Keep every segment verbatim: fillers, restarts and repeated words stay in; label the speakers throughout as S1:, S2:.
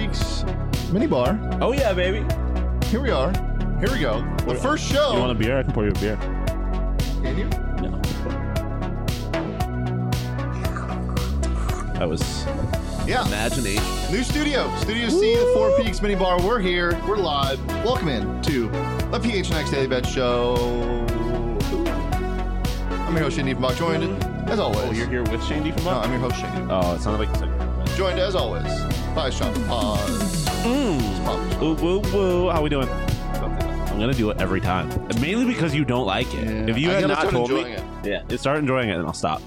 S1: Peaks mini bar.
S2: Oh, yeah, baby.
S1: Here we are. Here we go. The first show.
S2: You want a beer? I can pour you a beer.
S1: Can you?
S2: No. That was
S1: Yeah.
S2: imagination.
S1: New studio. Studio C, the Four Peaks mini bar. We're here. We're live. Welcome in to the P H N X Daily Bet Show. I'm your host, Shane Diefenbach, joined, as always.
S2: Oh, you're here with Shane Diefenbach?
S1: No, I'm your host, Shane.
S2: Oh, it sounded like you said.
S1: Joined, as always, by Sean Paz.
S2: Mm. Woo, woo, woo. How we doing? I'm going to do it every time. Mainly because you don't like it.
S1: Yeah.
S2: If you
S1: I
S2: had
S1: gotta
S2: not
S1: start
S2: told me,
S1: enjoying it.
S2: yeah, start enjoying it and I'll stop.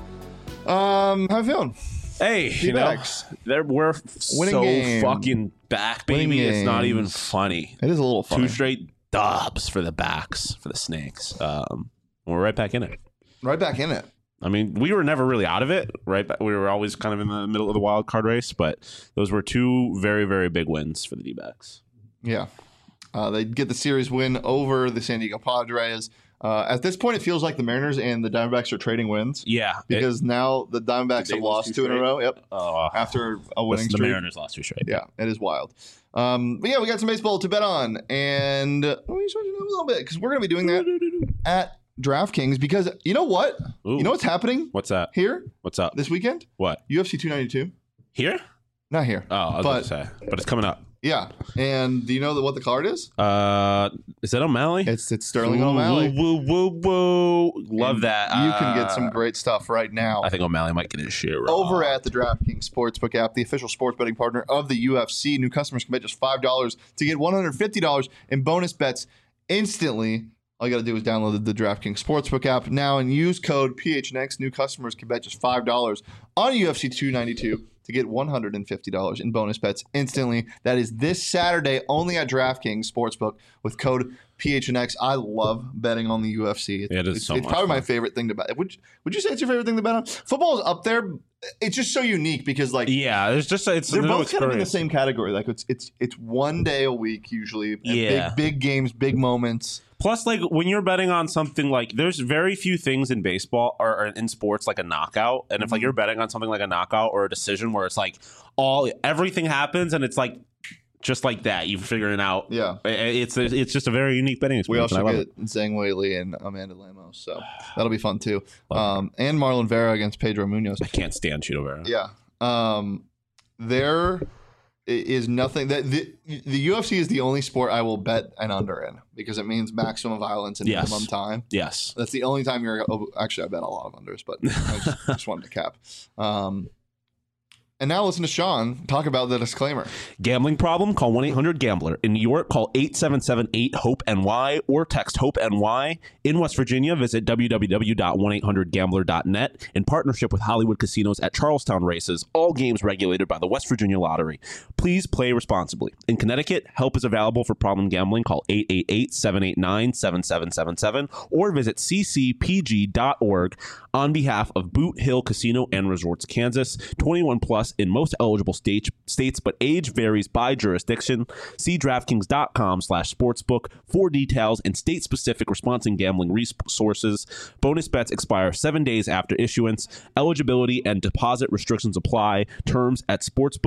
S1: Um, how you feeling?
S2: Hey, you know, there we're
S1: Winning
S2: so
S1: game.
S2: fucking back, baby.
S1: Winning
S2: It's not even
S1: games.
S2: funny.
S1: It is a little funny.
S2: Two straight dubs for the backs, for the Snakes. Um, we're right back in it.
S1: Right back in it.
S2: I mean, we were never really out of it, right? But we were always kind of in the middle of the wild card race, but those were two very, very big wins for the D-backs.
S1: Yeah. Uh, they get the series win over the San Diego Padres. Uh, at this point, it feels like the Mariners and the Diamondbacks are trading wins
S2: Yeah.
S1: because
S2: it,
S1: now the Diamondbacks
S2: Did they
S1: have
S2: lose
S1: lost
S2: two
S1: two in a
S2: straight?
S1: row. Yep.
S2: uh,
S1: After a winning
S2: the
S1: streak.
S2: Mariners lost two straight.
S1: Yeah, it is wild. Um, but yeah, we got some baseball to bet on, and uh, let me switch it up a little bit because we're going to be doing that at DraftKings because you know what?
S2: Ooh.
S1: You know what's happening
S2: What's that?
S1: here
S2: What's up?
S1: this weekend?
S2: What?
S1: U F C two ninety-two.
S2: Here?
S1: Not here.
S2: Oh, I was
S1: But-
S2: going to say. But it's coming up.
S1: Yeah, and do you know that what the card is?
S2: Uh, is that O'Malley?
S1: It's it's Sterling
S2: Woo,
S1: O'Malley.
S2: Woo, woo, woo, woo. Love
S1: And
S2: that.
S1: You can get
S2: Uh,
S1: some great stuff right now.
S2: I think O'Malley might get his share.
S1: Over at the DraftKings Sportsbook app, the official sports betting partner of the U F C. New customers can bet just five dollars to get one hundred fifty dollars in bonus bets instantly. All you got to do is download the, the DraftKings Sportsbook app now and use code P H N X. New customers can bet just five dollars on U F C two ninety-two to get one hundred fifty dollars in bonus bets instantly. That is this Saturday only at DraftKings Sportsbook with code P H N X. I love betting on the U F C.
S2: It is
S1: it's,
S2: so
S1: it's
S2: much
S1: probably my
S2: fun.
S1: favorite thing to bet. Would, would you say it's your favorite thing to bet on? Football is up there. It's just so unique because like
S2: Yeah, there's just it's
S1: they're
S2: no
S1: both kind of in the
S2: experience.
S1: same category. Like it's it's it's one day a week usually. and
S2: Yeah.
S1: Big big games, big moments.
S2: Plus, like when you're betting on something like there's very few things in baseball or, or in sports like a knockout, and if like
S1: Mhm.
S2: you're betting on something like a knockout or a decision where it's like all everything happens and it's like just like that, you figure it out.
S1: Yeah.
S2: I- It's it's just a very unique betting
S1: We
S2: experience.
S1: also
S2: and I love
S1: get Zhang Weili and Amanda Lemos, so that'll be fun too.
S2: Love
S1: Um, and Marlon Vera against Pedro Munoz.
S2: it. I can't stand Chito Vera.
S1: Yeah. Um, there i- is nothing that the, the U F C is the only sport I will bet an under in because it means maximum violence and
S2: Yes.
S1: minimum time.
S2: Yes.
S1: That's the only time you're. Oh, actually, I bet a lot of unders, but I just, just wanted to cap. Um, and now listen to Sean talk about the disclaimer.
S2: Gambling problem? Call one eight hundred gambler. In New York, call eight seven seven eight hope N Y or text HOPE-NY. In West Virginia, visit w w w dot one eight hundred gambler dot net in partnership with Hollywood Casinos at Charlestown Races. All games regulated by the West Virginia Lottery. Please play responsibly. In Connecticut, help is available for problem gambling. Call eight eight eight seven eight nine seven seven seven seven or visit c c p g dot org on behalf of Boot Hill Casino and Resorts, Kansas. twenty-one plus in most eligible state, states, but age varies by jurisdiction. See DraftKings.com slash sportsbook for details and state-specific response and gambling resources. Bonus bets expire seven days after issuance. Eligibility and deposit restrictions apply. Terms at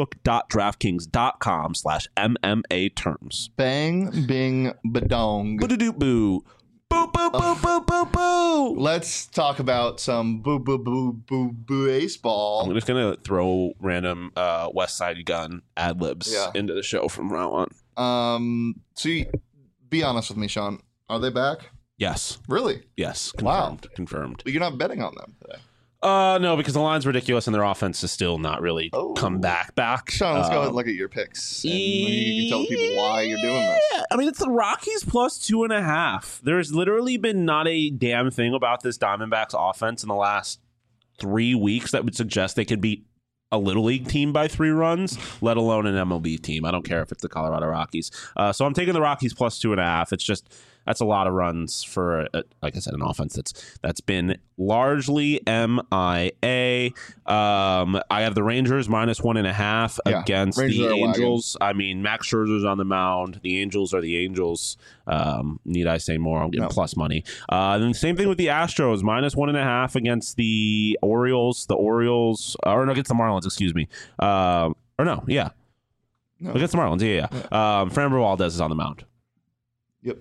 S2: sportsbook.draftkings.com slash MMA terms.
S1: Bang, bing, badong.
S2: Boo-doo-doo boo. Boo, boo, boo, boo, boo, boo.
S1: Let's talk about some boo, boo, boo, boo, boo baseball.
S2: I'm just gonna throw random uh, West Side Gun ad libs
S1: Yeah.
S2: into the show from round one.
S1: Um, so you, be honest with me, Sean. Are they back?
S2: Yes,
S1: Really?
S2: yes,
S1: Wow.
S2: confirmed. Confirmed.
S1: But you're not betting on them today.
S2: Uh, no, because the line's ridiculous and their offense is still not really
S1: Oh.
S2: come back. Back.
S1: Sean, let's go ahead
S2: Um,
S1: and look at your picks. And you can tell the people why you're doing this.
S2: Yeah, I mean, it's the Rockies plus two and a half. There's literally been not a damn thing about this Diamondbacks offense in the last three weeks that would suggest they could beat a Little League team by three runs, let alone an M L B team. I don't care if it's the Colorado Rockies. Uh, so I'm taking the Rockies plus two and a half. It's just that's a lot of runs for, a, like I said, an offense that's that's been largely M I A. Um, I have the Rangers minus one and a half
S1: Yeah,
S2: against
S1: Rangers
S2: the
S1: are wagging.
S2: Angels. I mean, Max Scherzer's on the mound. The Angels are the Angels. Um, need I say more? I'll get
S1: No.
S2: plus money. Uh, and then same thing with the Astros, minus one and a half against the Orioles. The Orioles, or no, against the Marlins. Excuse me. Um, or no, yeah. No. Against the Marlins, yeah, yeah. yeah. Um, Framber Valdez is on the mound.
S1: Yep.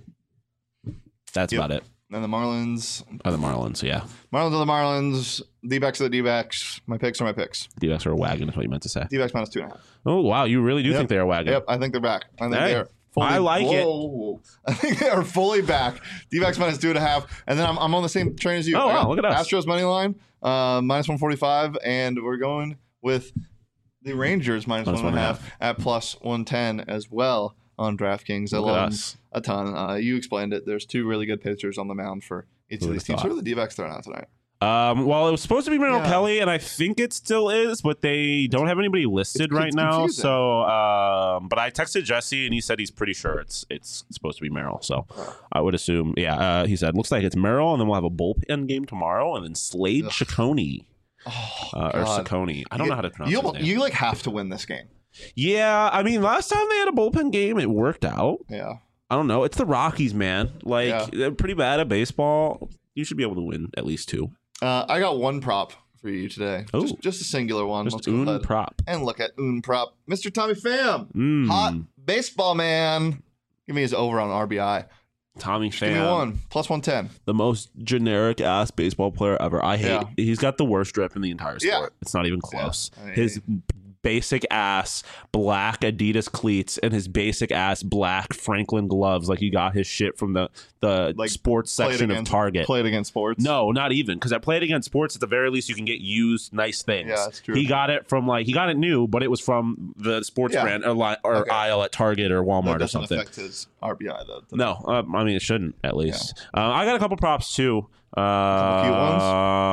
S2: That's
S1: yep.
S2: about it.
S1: And the Marlins.
S2: Are the Marlins, yeah.
S1: Marlins are the Marlins. D-backs are the D-backs. My picks are my picks.
S2: D-backs are a wagon, is what you meant to say.
S1: D-backs minus two and a half.
S2: Oh, wow. You really do
S1: yep.
S2: think they're a wagon?
S1: Yep, I think they're back. I think
S2: hey,
S1: they're fully
S2: I like
S1: whoa,
S2: it.
S1: I think they are fully back. D-backs minus two and a half. And then I'm, I'm on the same train as you.
S2: Oh, wow. Look at us.
S1: Astros money line, uh, minus one forty-five. And we're going with the Rangers minus, minus one and a half, half at plus one ten as well on DraftKings. I
S2: Look
S1: love
S2: us.
S1: them a ton. Uh, you explained it. There's two really good pitchers on the mound for each Who of these teams. Thought? Who are the D-backs throwing out tonight?
S2: Um, well, it was supposed to be Merrill
S1: yeah.
S2: Kelly, and I think it still is, but they don't have anybody listed
S1: it's,
S2: right
S1: it's
S2: now.
S1: confusing.
S2: So, um, but I texted Jesse, and he said he's pretty sure it's it's supposed to be Merrill. So, I would assume, yeah. Uh, he said looks like it's Merrill, and then we'll have a bullpen game tomorrow, and then Slade Ciccone,
S1: oh,
S2: uh, or Ciccone. I don't
S1: you,
S2: know how to pronounce
S1: you,
S2: his name.
S1: You like have to win this game.
S2: Yeah, I mean, last time they had a bullpen game, it worked out.
S1: Yeah.
S2: I don't know. It's the Rockies, man. Like
S1: yeah.
S2: they're pretty bad at baseball. You should be able to win at least two.
S1: Uh, I got one prop for you today.
S2: Oh.
S1: Just, just a singular one.
S2: Just
S1: Let's go
S2: un
S1: ahead
S2: prop.
S1: and look at un prop. Mister Tommy Pham.
S2: Mm.
S1: Hot baseball man. Give me his over on R B I.
S2: Tommy Pham.
S1: Give me one. Plus one ten.
S2: The most generic ass baseball player ever. I hate
S1: yeah.
S2: He's got the worst drip in the entire sport.
S1: Yeah.
S2: It's not even close.
S1: Yeah. I mean,
S2: his basic ass black Adidas cleats and his basic ass black Franklin gloves, like he got his shit from the the
S1: like
S2: sports section
S1: against,
S2: of Target.
S1: Played against sports?
S2: No, not even, because I played against sports. At the very least, you can get used nice things.
S1: Yeah, that's true.
S2: He got it from like he got it new, but it was from the sports
S1: yeah.
S2: brand or, li- or
S1: okay.
S2: aisle at Target or Walmart
S1: that
S2: or something.
S1: Affect his R B I though.
S2: No, uh, I mean it shouldn't at least. Yeah. Uh, I got a couple props too. Uh,
S1: couple cute ones.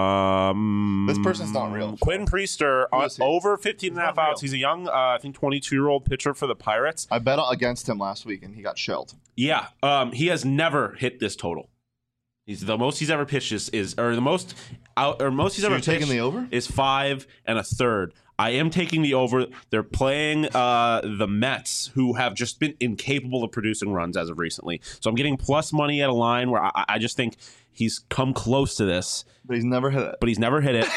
S2: Um,
S1: this person's not real.
S2: Quinn Priester on, over fifteen and a half outs. He's a young, uh, I think, twenty-two year old pitcher for the Pirates.
S1: I bet against him last week and he got shelled.
S2: Yeah, um, he has never hit this total. He's the most he's ever pitched is, is or the most out or most he's
S1: so
S2: ever
S1: you're
S2: pitched
S1: taking the over?
S2: is five and a third. I am taking the over. They're playing uh, the Mets, who have just been incapable of producing runs as of recently. So I'm getting plus money at a line where I, I just think he's come close to this,
S1: but he's never hit it.
S2: But he's never hit it.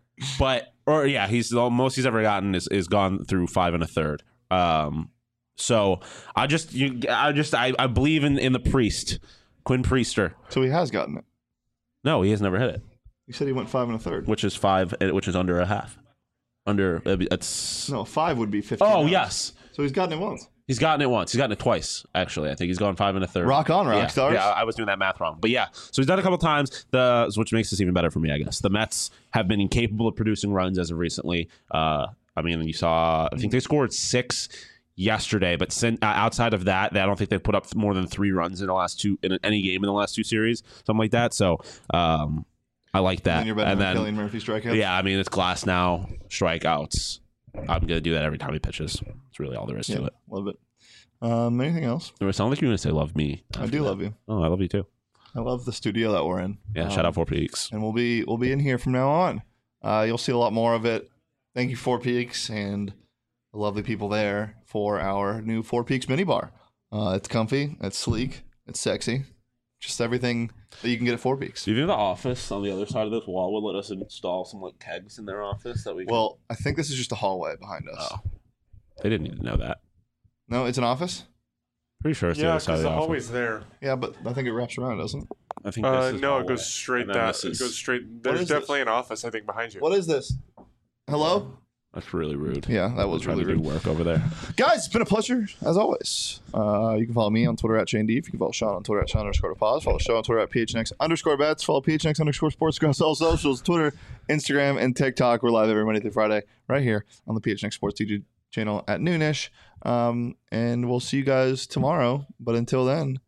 S2: but or yeah, he's the most he's ever gotten is, is gone through five and a third. Um, so I just you I just I, I believe in, in the priest, Quinn Priester.
S1: So he has gotten it.
S2: No, he has never hit it.
S1: You said he went five and a third,
S2: which is five, which is under a half. Under it's
S1: no five would be fifteen.
S2: Oh
S1: hours.
S2: yes,
S1: so he's gotten it once.
S2: He's gotten it once. He's gotten it twice actually. I think he's gone five and a third.
S1: Rock on, rock
S2: yeah.
S1: stars.
S2: Yeah, I was doing that math wrong, but yeah. So he's done it a couple times. The which makes this even better for me, I guess. The Mets have been incapable of producing runs as of recently. Uh, I mean, you saw. I think they scored six yesterday, but sin, uh, outside of that, I don't think they've put up more than three runs in the last two in any game in the last two series, something like that. So. Um, I like that.
S1: And then you're betting
S2: and
S1: on
S2: then,
S1: Killian Murphy strikeouts.
S2: Yeah, I mean it's Glass now strikeouts. I'm gonna do that every time he pitches. That's really all there is
S1: yeah,
S2: to it.
S1: Love it. Um, anything else?
S2: It sounds like you're gonna say love me.
S1: I do
S2: that.
S1: love you.
S2: Oh, I love you too.
S1: I love the studio that we're in.
S2: Yeah,
S1: um,
S2: shout out Four Peaks.
S1: And we'll be we'll be in here from now on. Uh, you'll see a lot more of it. Thank you, Four Peaks, and the lovely people there for our new Four Peaks minibar. Uh, it's comfy, it's sleek, it's sexy. Just everything that you can get at Four Peaks.
S2: Do you think the office on the other side of this wall would let us install some like kegs in their office that we? Can...
S1: Well, I think this is just a hallway behind us.
S2: Oh, they didn't need to know that.
S1: No, it's an office.
S2: Pretty sure it's
S3: yeah,
S2: the other side of the,
S3: the
S2: office.
S3: hallway's there.
S1: Yeah, but I think it wraps around, doesn't it?
S2: I think
S3: uh,
S2: this is
S3: no,
S2: hallway.
S3: it goes straight down. It
S2: is...
S3: goes straight.
S1: What
S3: There's
S1: is
S3: definitely
S1: this?
S3: an office, I think, behind you.
S1: What is this? Hello?
S2: That's really rude.
S1: Yeah, that was
S2: trying
S1: really
S2: to
S1: rude.
S2: do work over there.
S1: Guys, it's been a pleasure, as always. Uh, you can follow me on Twitter at Shane Deef. You can follow Sean on Twitter at Sean underscore pause. Follow the show on Twitter at P H N X underscore bets. Follow P H N X underscore sports across all socials, Twitter, Instagram, and TikTok. We're live every Monday through Friday right here on the P H N X Sports YouTube channel at noonish. Um, and we'll see you guys tomorrow. But until then,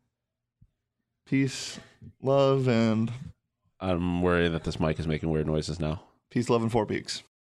S1: peace, love, and...
S2: I'm worried that this mic is making weird noises now.
S1: Peace, love, and Four Peaks.